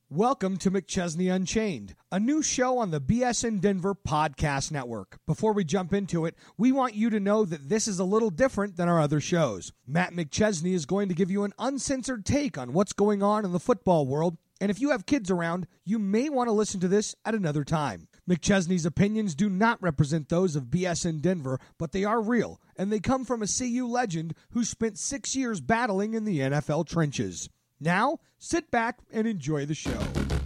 Welcome to McChesney Unchained, a new show on the BSN Denver Podcast Network. Before we jump into it, we want you to know that this is a little different than our other shows. Matt McChesney is going to give you an uncensored take on what's going on in the football world, and if you have kids around, you may want to listen to this at another time. McChesney's opinions do not represent those of BSN Denver, but they are real, and they come from a CU legend who spent 6 years battling in the NFL trenches. Now, sit back and enjoy the show.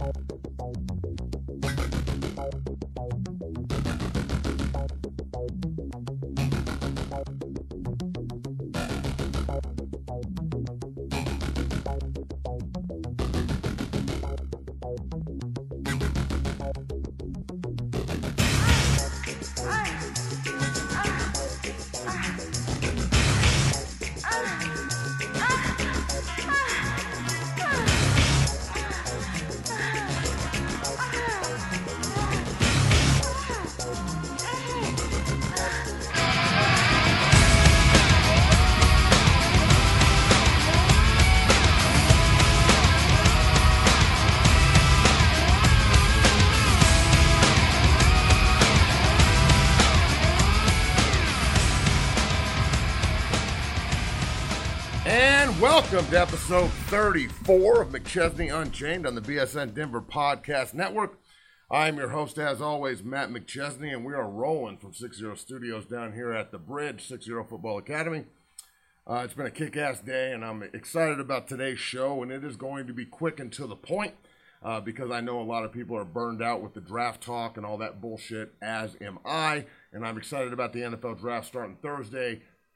Welcome to episode 34 of McChesney Unchained on the BSN Denver Podcast Network. I'm your host, as always, Matt McChesney, and we are rolling from 6-0 Studios down here at the Bridge, 6-0 Football Academy. It's been a kick-ass day, and I'm excited about today's show, and it is going to be quick and to the point because I know a lot of people are burned out with the draft talk and all that bullshit, as am I, and I'm excited about the NFL draft starting Thursday,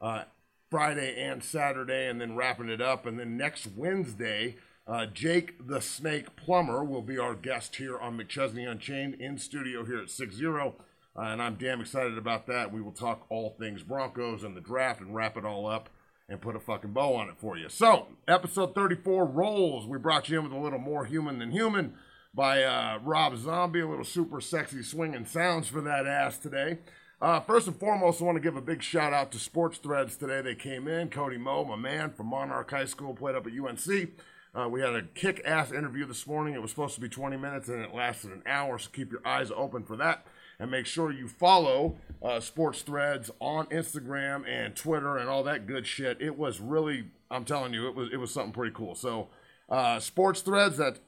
Friday and Saturday, and then wrapping it up. And then next Wednesday, Jake the Snake Plumber will be our guest here on McChesney Unchained in studio here at 6-0. And I'm damn excited about that. We will talk all things Broncos and the draft and wrap it all up and put a fucking bow on it for you. So, episode 34 rolls. We brought you in with a little more human than human by Rob Zombie, a little super sexy swinging sounds for that ass today. First and foremost, I want to give a big shout out to Sports Threads today. They came in. Cody Moe, my man from Monarch High School, played up at UNC. We had a kick-ass interview this morning. It was supposed to be 20 minutes, and it lasted an hour, so keep your eyes open for that. And make sure you follow Sports Threads on Instagram and Twitter and all that good shit. It was really, I'm telling you, it was something pretty cool. So, Sports Threads, that's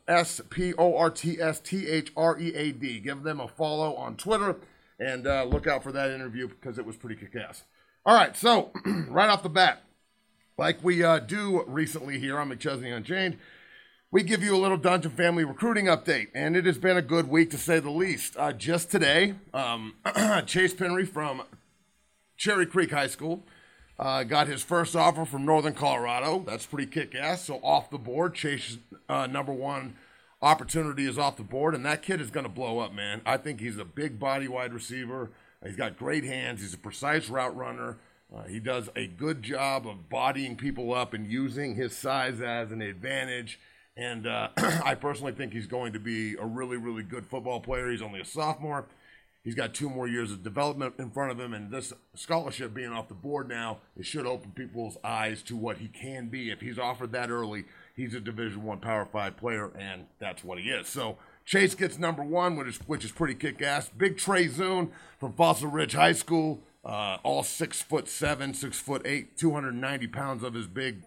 SportsThread. Give them a follow on Twitter. And look out for that interview because it was pretty kick-ass. All right, so right off the bat, like we do recently here on McChesney Unchained, we give you a little Dungeon Family recruiting update. And it has been a good week to say the least. Just today, Chase Penry from Cherry Creek High School got his first offer from Northern Colorado. That's pretty kick-ass. So off the board, Chase's number one opportunity is off the board, and that kid is going to blow up, man. I think he's a big body wide receiver. He's got great hands. He's a precise route runner. He does a good job of bodying people up and using his size as an advantage. And I personally think he's going to be a really, really good football player. He's only a sophomore. He's got 2 more years of development in front of him, and this scholarship being off the board now, it should open people's eyes to what he can be. If he's offered that early, he's a Division I Power 5 player, and that's what he is. So Chase gets number 1, which is pretty kick-ass. Big Trey Zune from Fossil Ridge High School, all 6'7", 6'8", 290 pounds of his big,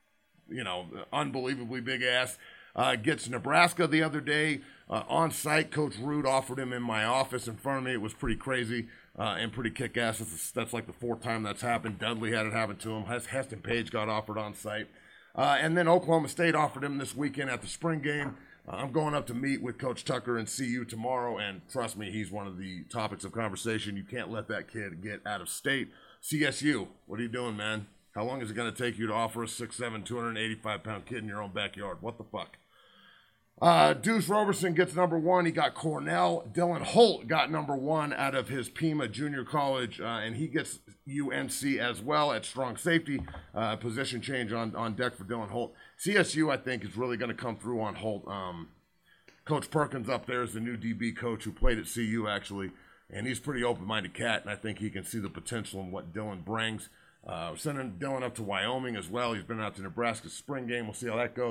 unbelievably big ass. Gets Nebraska the other day. On site, Coach Root offered him in my office in front of me. It was pretty crazy and pretty kick-ass. That's like the 4th time that's happened. Dudley had it happen to him. Heston Page got offered on site. And then Oklahoma State offered him this weekend at the spring game. I'm going up to meet with Coach Tucker and CU tomorrow, and trust me, he's one of the topics of conversation. You can't let that kid get out of state. CSU, what are you doing, man? How long is it going to take you to offer a 6'7", 285-pound kid in your own backyard? What the fuck? Deuce Roberson gets number 1. He got Cornell. Dylan Holt got number 1 out of his Pima Junior College, and he gets UNC as well at strong safety. Position change on deck for Dylan Holt. CSU, I think, is really going to come through on Holt. Coach Perkins up there is the new DB coach who played at CU, actually, and he's a pretty open-minded cat, and I think he can see the potential in what Dylan brings. We're sending Dylan up to Wyoming as well. He's been out to Nebraska's spring game. We'll see how that goes.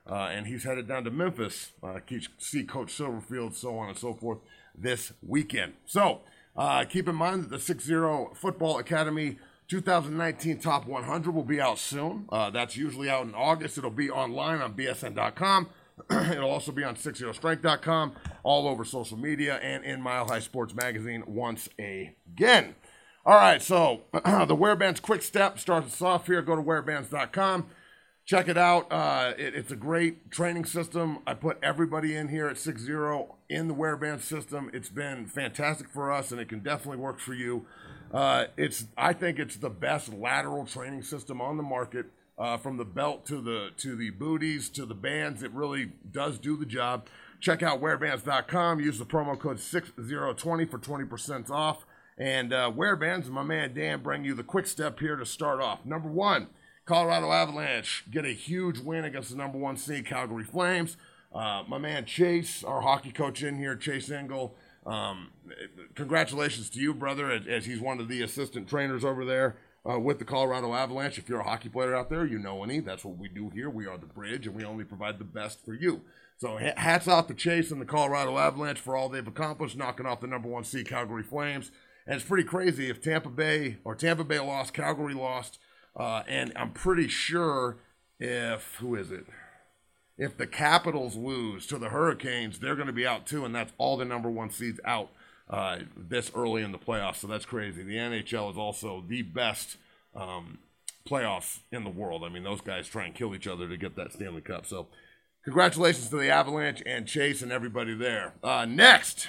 and he's headed down to Memphis, see Coach Silverfield, so on and so forth, this weekend. So keep in mind that the 6-0 Football Academy 2019 Top 100 will be out soon. That's usually out in August. It'll be online on bsn.com. It'll also be on 60strength.com, all over social media, and in Mile High Sports Magazine once again. All right, so the Wearbands Quick Step starts us off here. Go to wearbands.com. Check it out. It's a great training system. I put everybody in here at 6-0 in the Wearbands system. It's been fantastic for us, and it can definitely work for you. I think it's the best lateral training system on the market. From the belt to the booties to the bands, it really does do the job. Check out wearbands.com. Use the promo code 6020 for 20% off. And Wearbands and my man Dan bring you the quick step here to start off. Number one, Colorado Avalanche get a huge win against the number 1 seed Calgary Flames. My man Chase, our hockey coach in here, Chase Engel. Congratulations to you, brother, as he's one of the assistant trainers over there. With the Colorado Avalanche. If you're a hockey player out there, you know any. That's what we do here. We are the bridge, and we only provide the best for you. So hats off to Chase and the Colorado Avalanche for all they've accomplished, knocking off the number 1 seed Calgary Flames. And it's pretty crazy if Tampa Bay lost, Calgary lost, and I'm pretty sure if the Capitals lose to the Hurricanes, they're going to be out too, and that's all the number 1 seeds out. This early in the playoffs, so that's crazy. The NHL is also the best playoffs in the world. I mean, those guys try and kill each other to get that Stanley Cup. So congratulations to the Avalanche and Chase and everybody there. Next,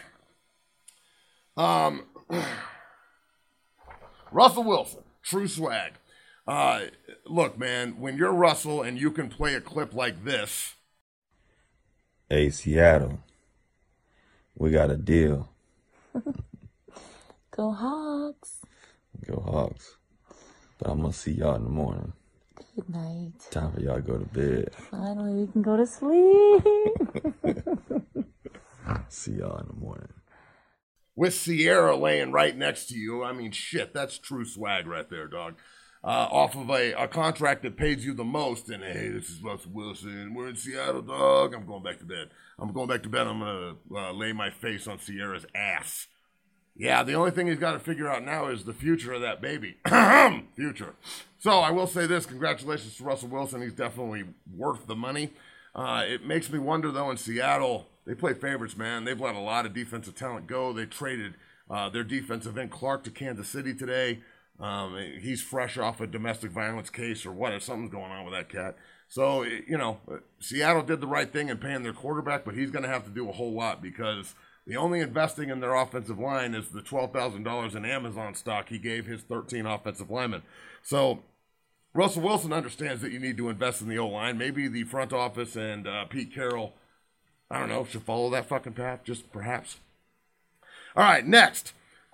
Russell Wilson, true swag. Look, man, when you're Russell and you can play a clip like this. Hey, Seattle, we got a deal. Go Hawks. Go Hawks. But I'm going to see y'all in the morning. Good night. Time for y'all to go to bed. Finally, we can go to sleep. See y'all in the morning. With Sierra laying right next to you, I mean, shit, that's true swag right there, dog. Off of a contract that pays you the most, and hey, this is Russell Wilson. We're in Seattle, dog. I'm going back to bed. I'm going to lay my face on Sierra's ass. Yeah, the only thing he's got to figure out now is the future of that baby. Future. So I will say this, congratulations to Russell Wilson. He's definitely worth the money. It makes me wonder, though, in Seattle, they play favorites, man. They've let a lot of defensive talent go. They traded their defensive end Clark to Kansas City today. He's fresh off a domestic violence case or what, something's going on with that cat. So, Seattle did the right thing in paying their quarterback, but he's going to have to do a whole lot because the only investing in their offensive line is the $12,000 in Amazon stock he gave his 13 offensive linemen. So Russell Wilson understands that you need to invest in the O-line. Maybe the front office and Pete Carroll, I don't know, should follow that fucking path, just perhaps. All right, next.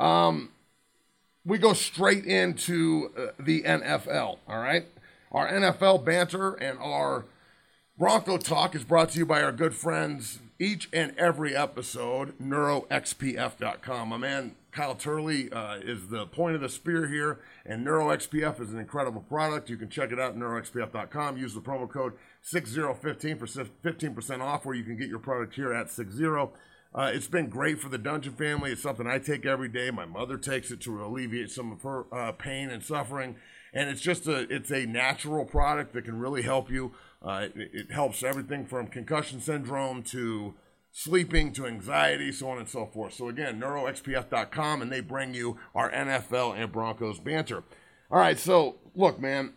We go straight into the NFL, all right? Our NFL banter and our Bronco talk is brought to you by our good friends each and every episode, NeuroXPF.com. My man Kyle Turley is the point of the spear here, and NeuroXPF is an incredible product. You can check it out at NeuroXPF.com. Use the promo code 6015 for 15% off, where you can get your product here at 60. It's been great for the Dungeon family. It's something I take every day. My mother takes it to alleviate some of her pain and suffering. And it's a natural product that can really help you. It helps everything from concussion syndrome to sleeping to anxiety, so on and so forth. So again, NeuroXPF.com, and they bring you our NFL and Broncos banter. All right, so look, man.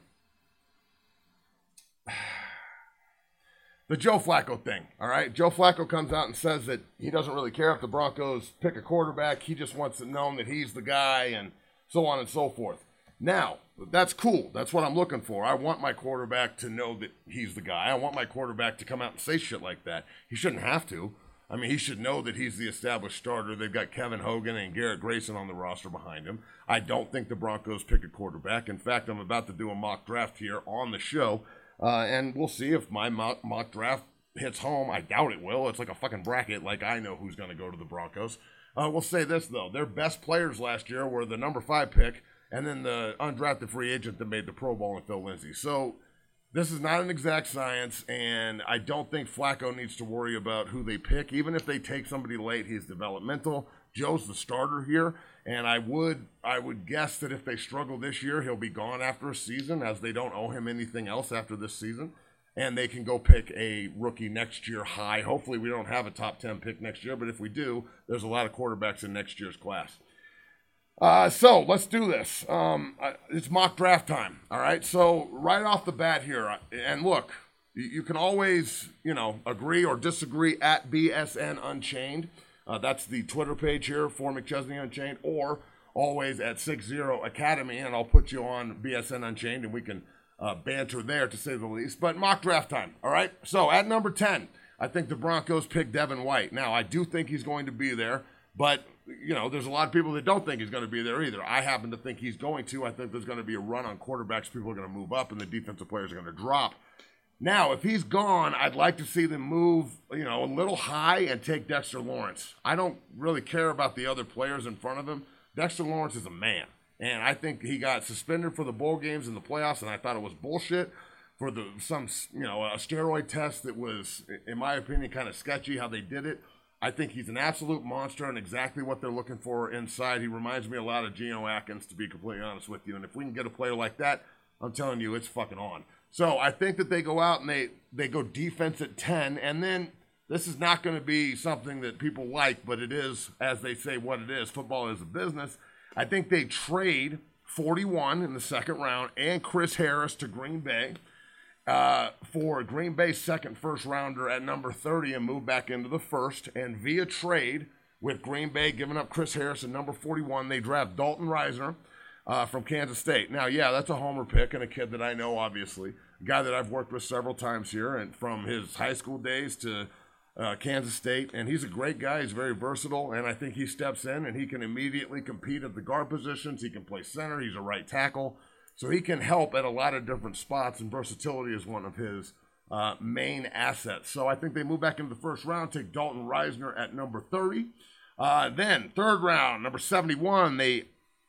The Joe Flacco thing, all right? Joe Flacco comes out and says that he doesn't really care if the Broncos pick a quarterback. He just wants it known that he's the guy and so on and so forth. Now, that's cool. That's what I'm looking for. I want my quarterback to know that he's the guy. I want my quarterback to come out and say shit like that. He shouldn't have to. I mean, he should know that he's the established starter. They've got Kevin Hogan and Garrett Grayson on the roster behind him. I don't think the Broncos pick a quarterback. In fact, I'm about to do a mock draft here on the show. And we'll see if my mock draft hits home. I doubt it will. It's like a fucking bracket. Like, I know who's going to go to the Broncos. We'll say this, though. Their best players last year were the number 5 pick and then the undrafted free agent that made the Pro Bowl and Phil Lindsay. So this is not an exact science, and I don't think Flacco needs to worry about who they pick. Even if they take somebody late, he's developmental. Joe's the starter here, and I would guess that if they struggle this year, he'll be gone after a season, as they don't owe him anything else after this season, and they can go pick a rookie next year high. Hopefully we don't have a top 10 pick next year, but if we do, there's a lot of quarterbacks in next year's class. So let's do this. It's mock draft time. All right. So right off the bat here, and look, you can always, agree or disagree at BSN Unchained. That's the Twitter page here for McChesney Unchained, or always at 60 Academy, and I'll put you on BSN Unchained, and we can banter there, to say the least. But mock draft time. All right. So at number 10, I think the Broncos pick Devin White. Now, I do think he's going to be there, but there's a lot of people that don't think he's going to be there either. I happen to think he's going to. I think there's going to be a run on quarterbacks. People are going to move up, and the defensive players are going to drop. Now, if he's gone, I'd like to see them move, a little high and take Dexter Lawrence. I don't really care about the other players in front of him. Dexter Lawrence is a man, and I think he got suspended for the bowl games in the playoffs, and I thought it was bullshit for a steroid test that was, in my opinion, kind of sketchy how they did it. I think he's an absolute monster and exactly what they're looking for inside. He reminds me a lot of Geno Atkins, to be completely honest with you. And if we can get a player like that, I'm telling you, it's fucking on. So I think that they go out and they go defense at 10. And then this is not going to be something that people like, but it is, as they say, what it is. Football is a business. I think they trade 41 in the second round and Chris Harris to Green Bay for Green Bay's second first rounder at number 30 and move back into the first. And via trade with Green Bay giving up Chris Harris at number 41, they draft Dalton Risner from Kansas State. Now, yeah, that's a homer pick and a kid that I know, obviously, a guy that I've worked with several times here, and from his high school days to Kansas State. And he's a great guy. He's very versatile, and I think he steps in and he can immediately compete at the guard positions. He can play center. He's a right tackle. So he can help at a lot of different spots, and versatility is one of his main assets. So I think they move back into the first round, take Dalton Risner at number 30. Then third round, number 71, they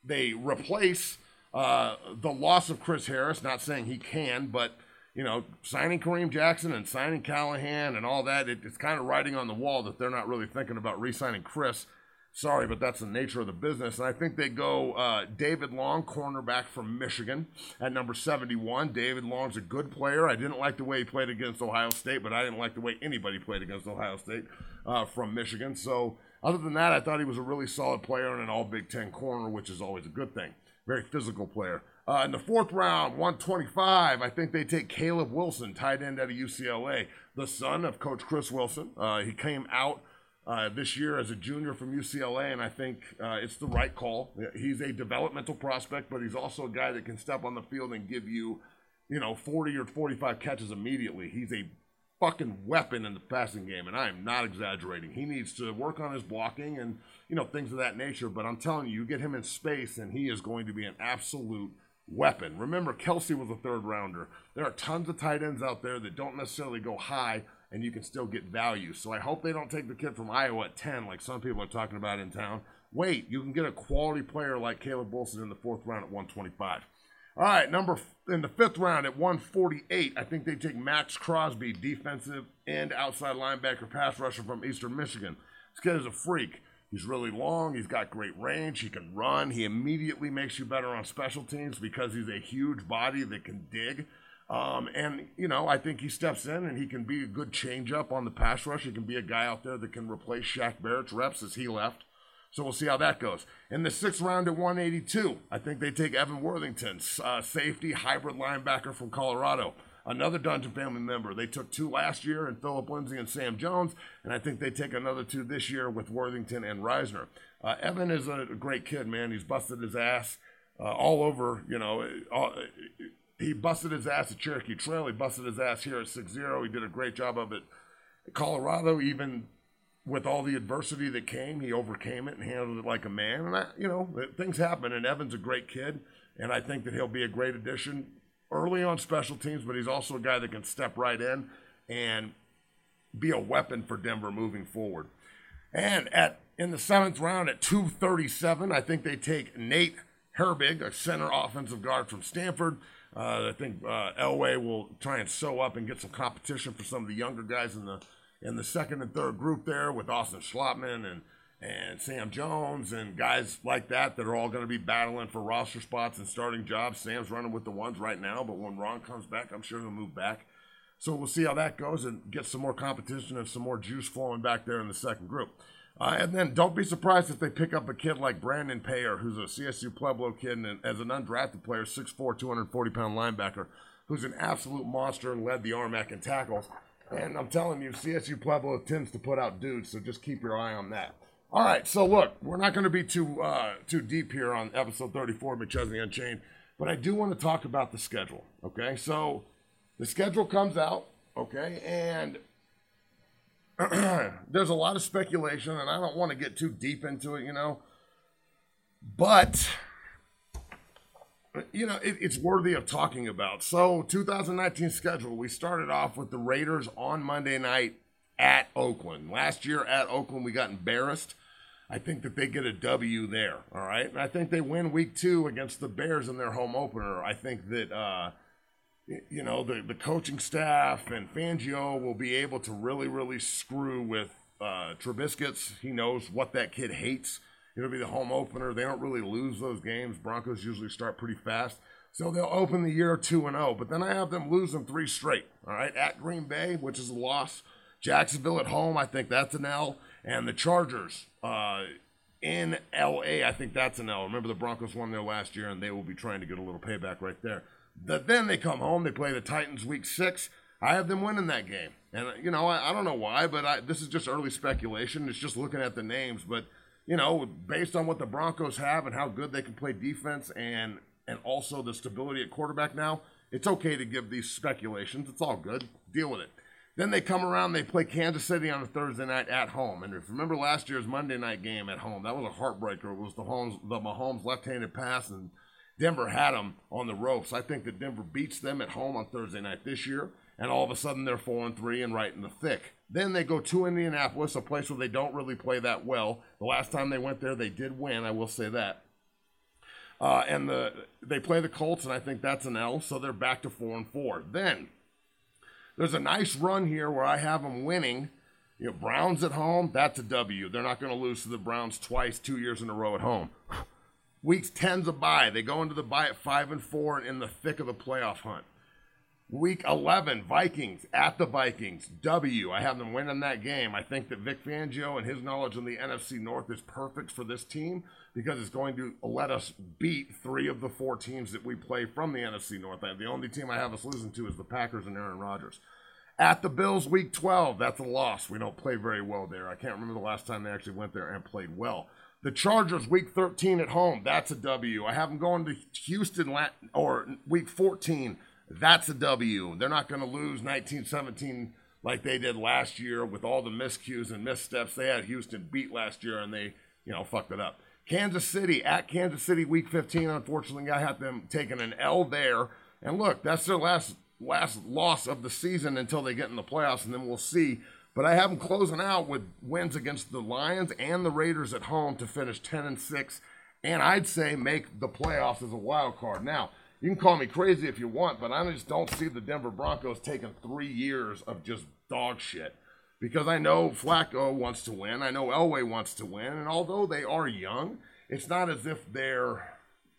replace the loss of Chris Harris. Not saying he can, but signing Kareem Jackson and signing Callahan and all that, it's kind of writing on the wall that they're not really thinking about re-signing Chris. Sorry, but that's the nature of the business. And I think they go David Long, cornerback from Michigan, at number 71. David Long's a good player. I didn't like the way he played against Ohio State, but I didn't like the way anybody played against Ohio State from Michigan. So other than that, I thought he was a really solid player and an all Big Ten corner, which is always a good thing. Very physical player. In the fourth round, 125, I think they take Caleb Wilson, tight end out of UCLA, the son of Coach Chris Wilson. He came out this year as a junior from UCLA, and I think it's the right call. He's a developmental prospect, but he's also a guy that can step on the field and give you, 40 or 45 catches immediately. He's a fucking weapon in the passing game, and I am not exaggerating. He needs to work on his blocking and, things of that nature, but I'm telling you, you get him in space, and he is going to be an absolute weapon. Remember, Kelsey was a third rounder. There are tons of tight ends out there that don't necessarily go high, and you can still get value. So I hope they don't take the kid from Iowa at 10 like some people are talking about in town. Wait, you can get a quality player like Caleb Wilson in the fourth round at 125. All right, in the fifth round at 148, I think they take Max Crosby, defensive end, outside linebacker, pass rusher from Eastern Michigan. This kid is a freak. He's really long. He's got great range. He can run. He immediately makes you better on special teams because he's a huge body that can dig. I think he steps in and he can be a good change-up on the pass rush. He can be a guy out there that can replace Shaq Barrett's reps as he left. So we'll see how that goes. In the sixth round at 182, I think they take Evan Worthington, safety, hybrid linebacker from Colorado. Another Dungeon family member. They took 2 last year in Phillip Lindsay and Sam Jones, and I think they take another 2 this year with Worthington and Risner. Evan is a great kid, man. He's busted his ass all over, he busted his ass at Cherokee Trail. He busted his ass here at 6-0. He did a great job of it at Colorado. Even with all the adversity that came, he overcame it and handled it like a man. And, things happen, and Evan's a great kid, and I think that he'll be a great addition early on special teams, but he's also a guy that can step right in and be a weapon for Denver moving forward. And in the seventh round at 237, I think they take Nate Herbig, a center offensive guard from Stanford. I think Elway will try and sew up and get some competition for some of the younger guys in the second and third group there with Austin Schlottman and Sam Jones and guys like that are all going to be battling for roster spots and starting jobs. Sam's running with the ones right now, but when Ron comes back, I'm sure he'll move back. So we'll see how that goes and get some more competition and some more juice flowing back there in the second group. And then don't be surprised if they pick up a kid like Brandon Payer, who's a CSU Pueblo kid and as an undrafted player, 6'4", 240-pound linebacker, who's an absolute monster and led the RMAC in tackles. And I'm telling you, CSU Pueblo tends to put out dudes, so just keep your eye on that. All right, so look, we're not going to be too deep here on episode 34 of McChesney Unchained, but I do want to talk about the schedule, okay? So the schedule comes out, okay, and there's a lot of speculation, and I don't want to get too deep into it, but, it's worthy of talking about. So 2019 schedule, we started off with the Raiders on Monday night at Oakland. Last year at Oakland, we got embarrassed. I think that they get a W there, all right? And I think they win week 2 against the Bears in their home opener. I think that, the coaching staff and Fangio will be able to really, really screw with Trubisky. He knows what that kid hates. It'll be the home opener. They don't really lose those games. Broncos usually start pretty fast. So they'll open the year 2-0. But then I have them losing 3 straight, all right? At Green Bay, which is a loss. Jacksonville at home, I think that's an L. And the Chargers in L.A., I think that's an L. Remember the Broncos won there last year, and they will be trying to get a little payback right there. Then they come home. They play the Titans week 6. I have them winning that game. And, I don't know why, but this is just early speculation. It's just looking at the names. But, based on what the Broncos have and how good they can play defense and also the stability at quarterback now, it's okay to give these speculations. It's all good. Deal with it. Then they come around, they play Kansas City on a Thursday night at home. And if you remember last year's Monday night game at home, that was a heartbreaker. It was the Mahomes left-handed pass, and Denver had them on the ropes. I think that Denver beats them at home on Thursday night this year, and all of a sudden they're 4-3 and right in the thick. Then they go to Indianapolis, a place where they don't really play that well. The last time they went there, they did win, I will say that. And they play the Colts, and I think that's an L, so they're back to 4-4. Then there's a nice run here where I have them winning. Browns at home, that's a W. They're not going to lose to the Browns twice, 2 years in a row at home. Week 10's a bye. They go into the bye at 5-4 and in the thick of the playoff hunt. Week 11, Vikings at the Vikings. W. I have them winning that game. I think that Vic Fangio and his knowledge of the NFC North is perfect for this team because it's going to let us beat 3 of the 4 teams that we play from the NFC North. The only team I have us losing to is the Packers and Aaron Rodgers. At the Bills, week 12, that's a loss. We don't play very well there. I can't remember the last time they actually went there and played well. The Chargers, week 13 at home, that's a W. I have them going to Houston or week 14. That's a W. They're not going to lose 19-17 like they did last year with all the miscues and missteps. They had Houston beat last year, and they, fucked it up. Kansas City, at Kansas City, week 15. Unfortunately, I have them taking an L there. And look, that's their last loss of the season until they get in the playoffs, and then we'll see. But I have them closing out with wins against the Lions and the Raiders at home to finish 10-6, and I'd say make the playoffs as a wild card. Now, you can call me crazy if you want, but I just don't see the Denver Broncos taking 3 years of just dog shit. Because I know Flacco wants to win. I know Elway wants to win. And although they are young, it's not as if they're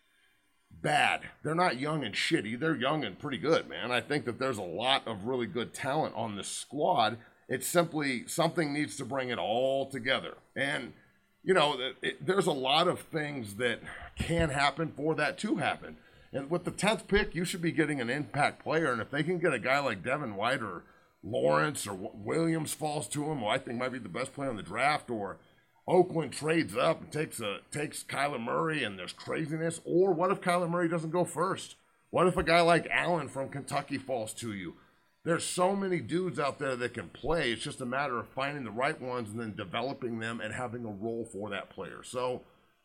bad. They're not young and shitty. They're young and pretty good, man. I think that there's a lot of really good talent on this squad. It's simply something needs to bring it all together. And, there's a lot of things that can happen for that to happen. And with the 10th pick, you should be getting an impact player. And if they can get a guy like Devin White or Lawrence or Williams falls to him, who I think might be the best player in the draft, or Oakland trades up and takes Kyler Murray and there's craziness. Or what if Kyler Murray doesn't go first? What if a guy like Allen from Kentucky falls to you? There's so many dudes out there that can play. It's just a matter of finding the right ones and then developing them and having a role for that player. So,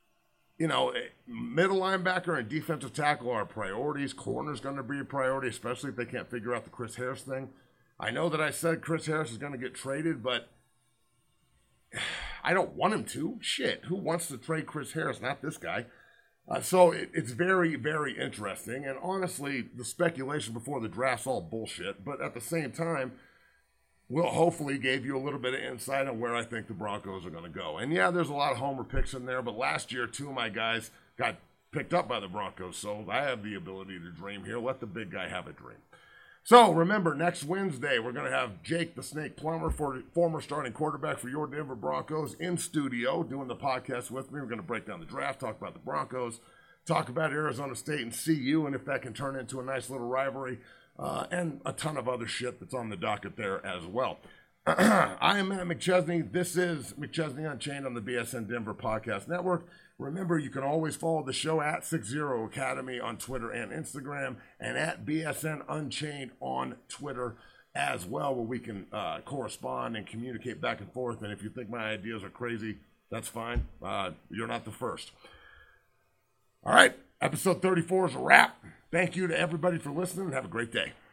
middle linebacker and defensive tackle are priorities. Corner's going to be a priority, especially if they can't figure out the Chris Harris thing. I know that I said Chris Harris is going to get traded, but I don't want him to. Shit, who wants to trade Chris Harris? Not this guy. So it's very, very interesting. And honestly, the speculation before the draft's all bullshit. But at the same time, we'll hopefully gave you a little bit of insight on where I think the Broncos are going to go. And yeah, there's a lot of homer picks in there. But last year, 2 of my guys got picked up by the Broncos. So I have the ability to dream here. Let the big guy have a dream. So remember, next Wednesday, we're going to have Jake the Snake Plummer, former starting quarterback for your Denver Broncos, in studio doing the podcast with me. We're going to break down the draft, talk about the Broncos, talk about Arizona State and CU, and if that can turn into a nice little rivalry, and a ton of other shit that's on the docket there as well. I am Matt McChesney. This is McChesney Unchained on the BSN Denver Podcast Network. Remember, you can always follow the show at 60 Academy on Twitter and Instagram, and at BSN Unchained on Twitter as well, where we can correspond and communicate back and forth. And if you think my ideas are crazy, that's fine. You're not the first. All right, episode 34 is a wrap. Thank you to everybody for listening, and have a great day.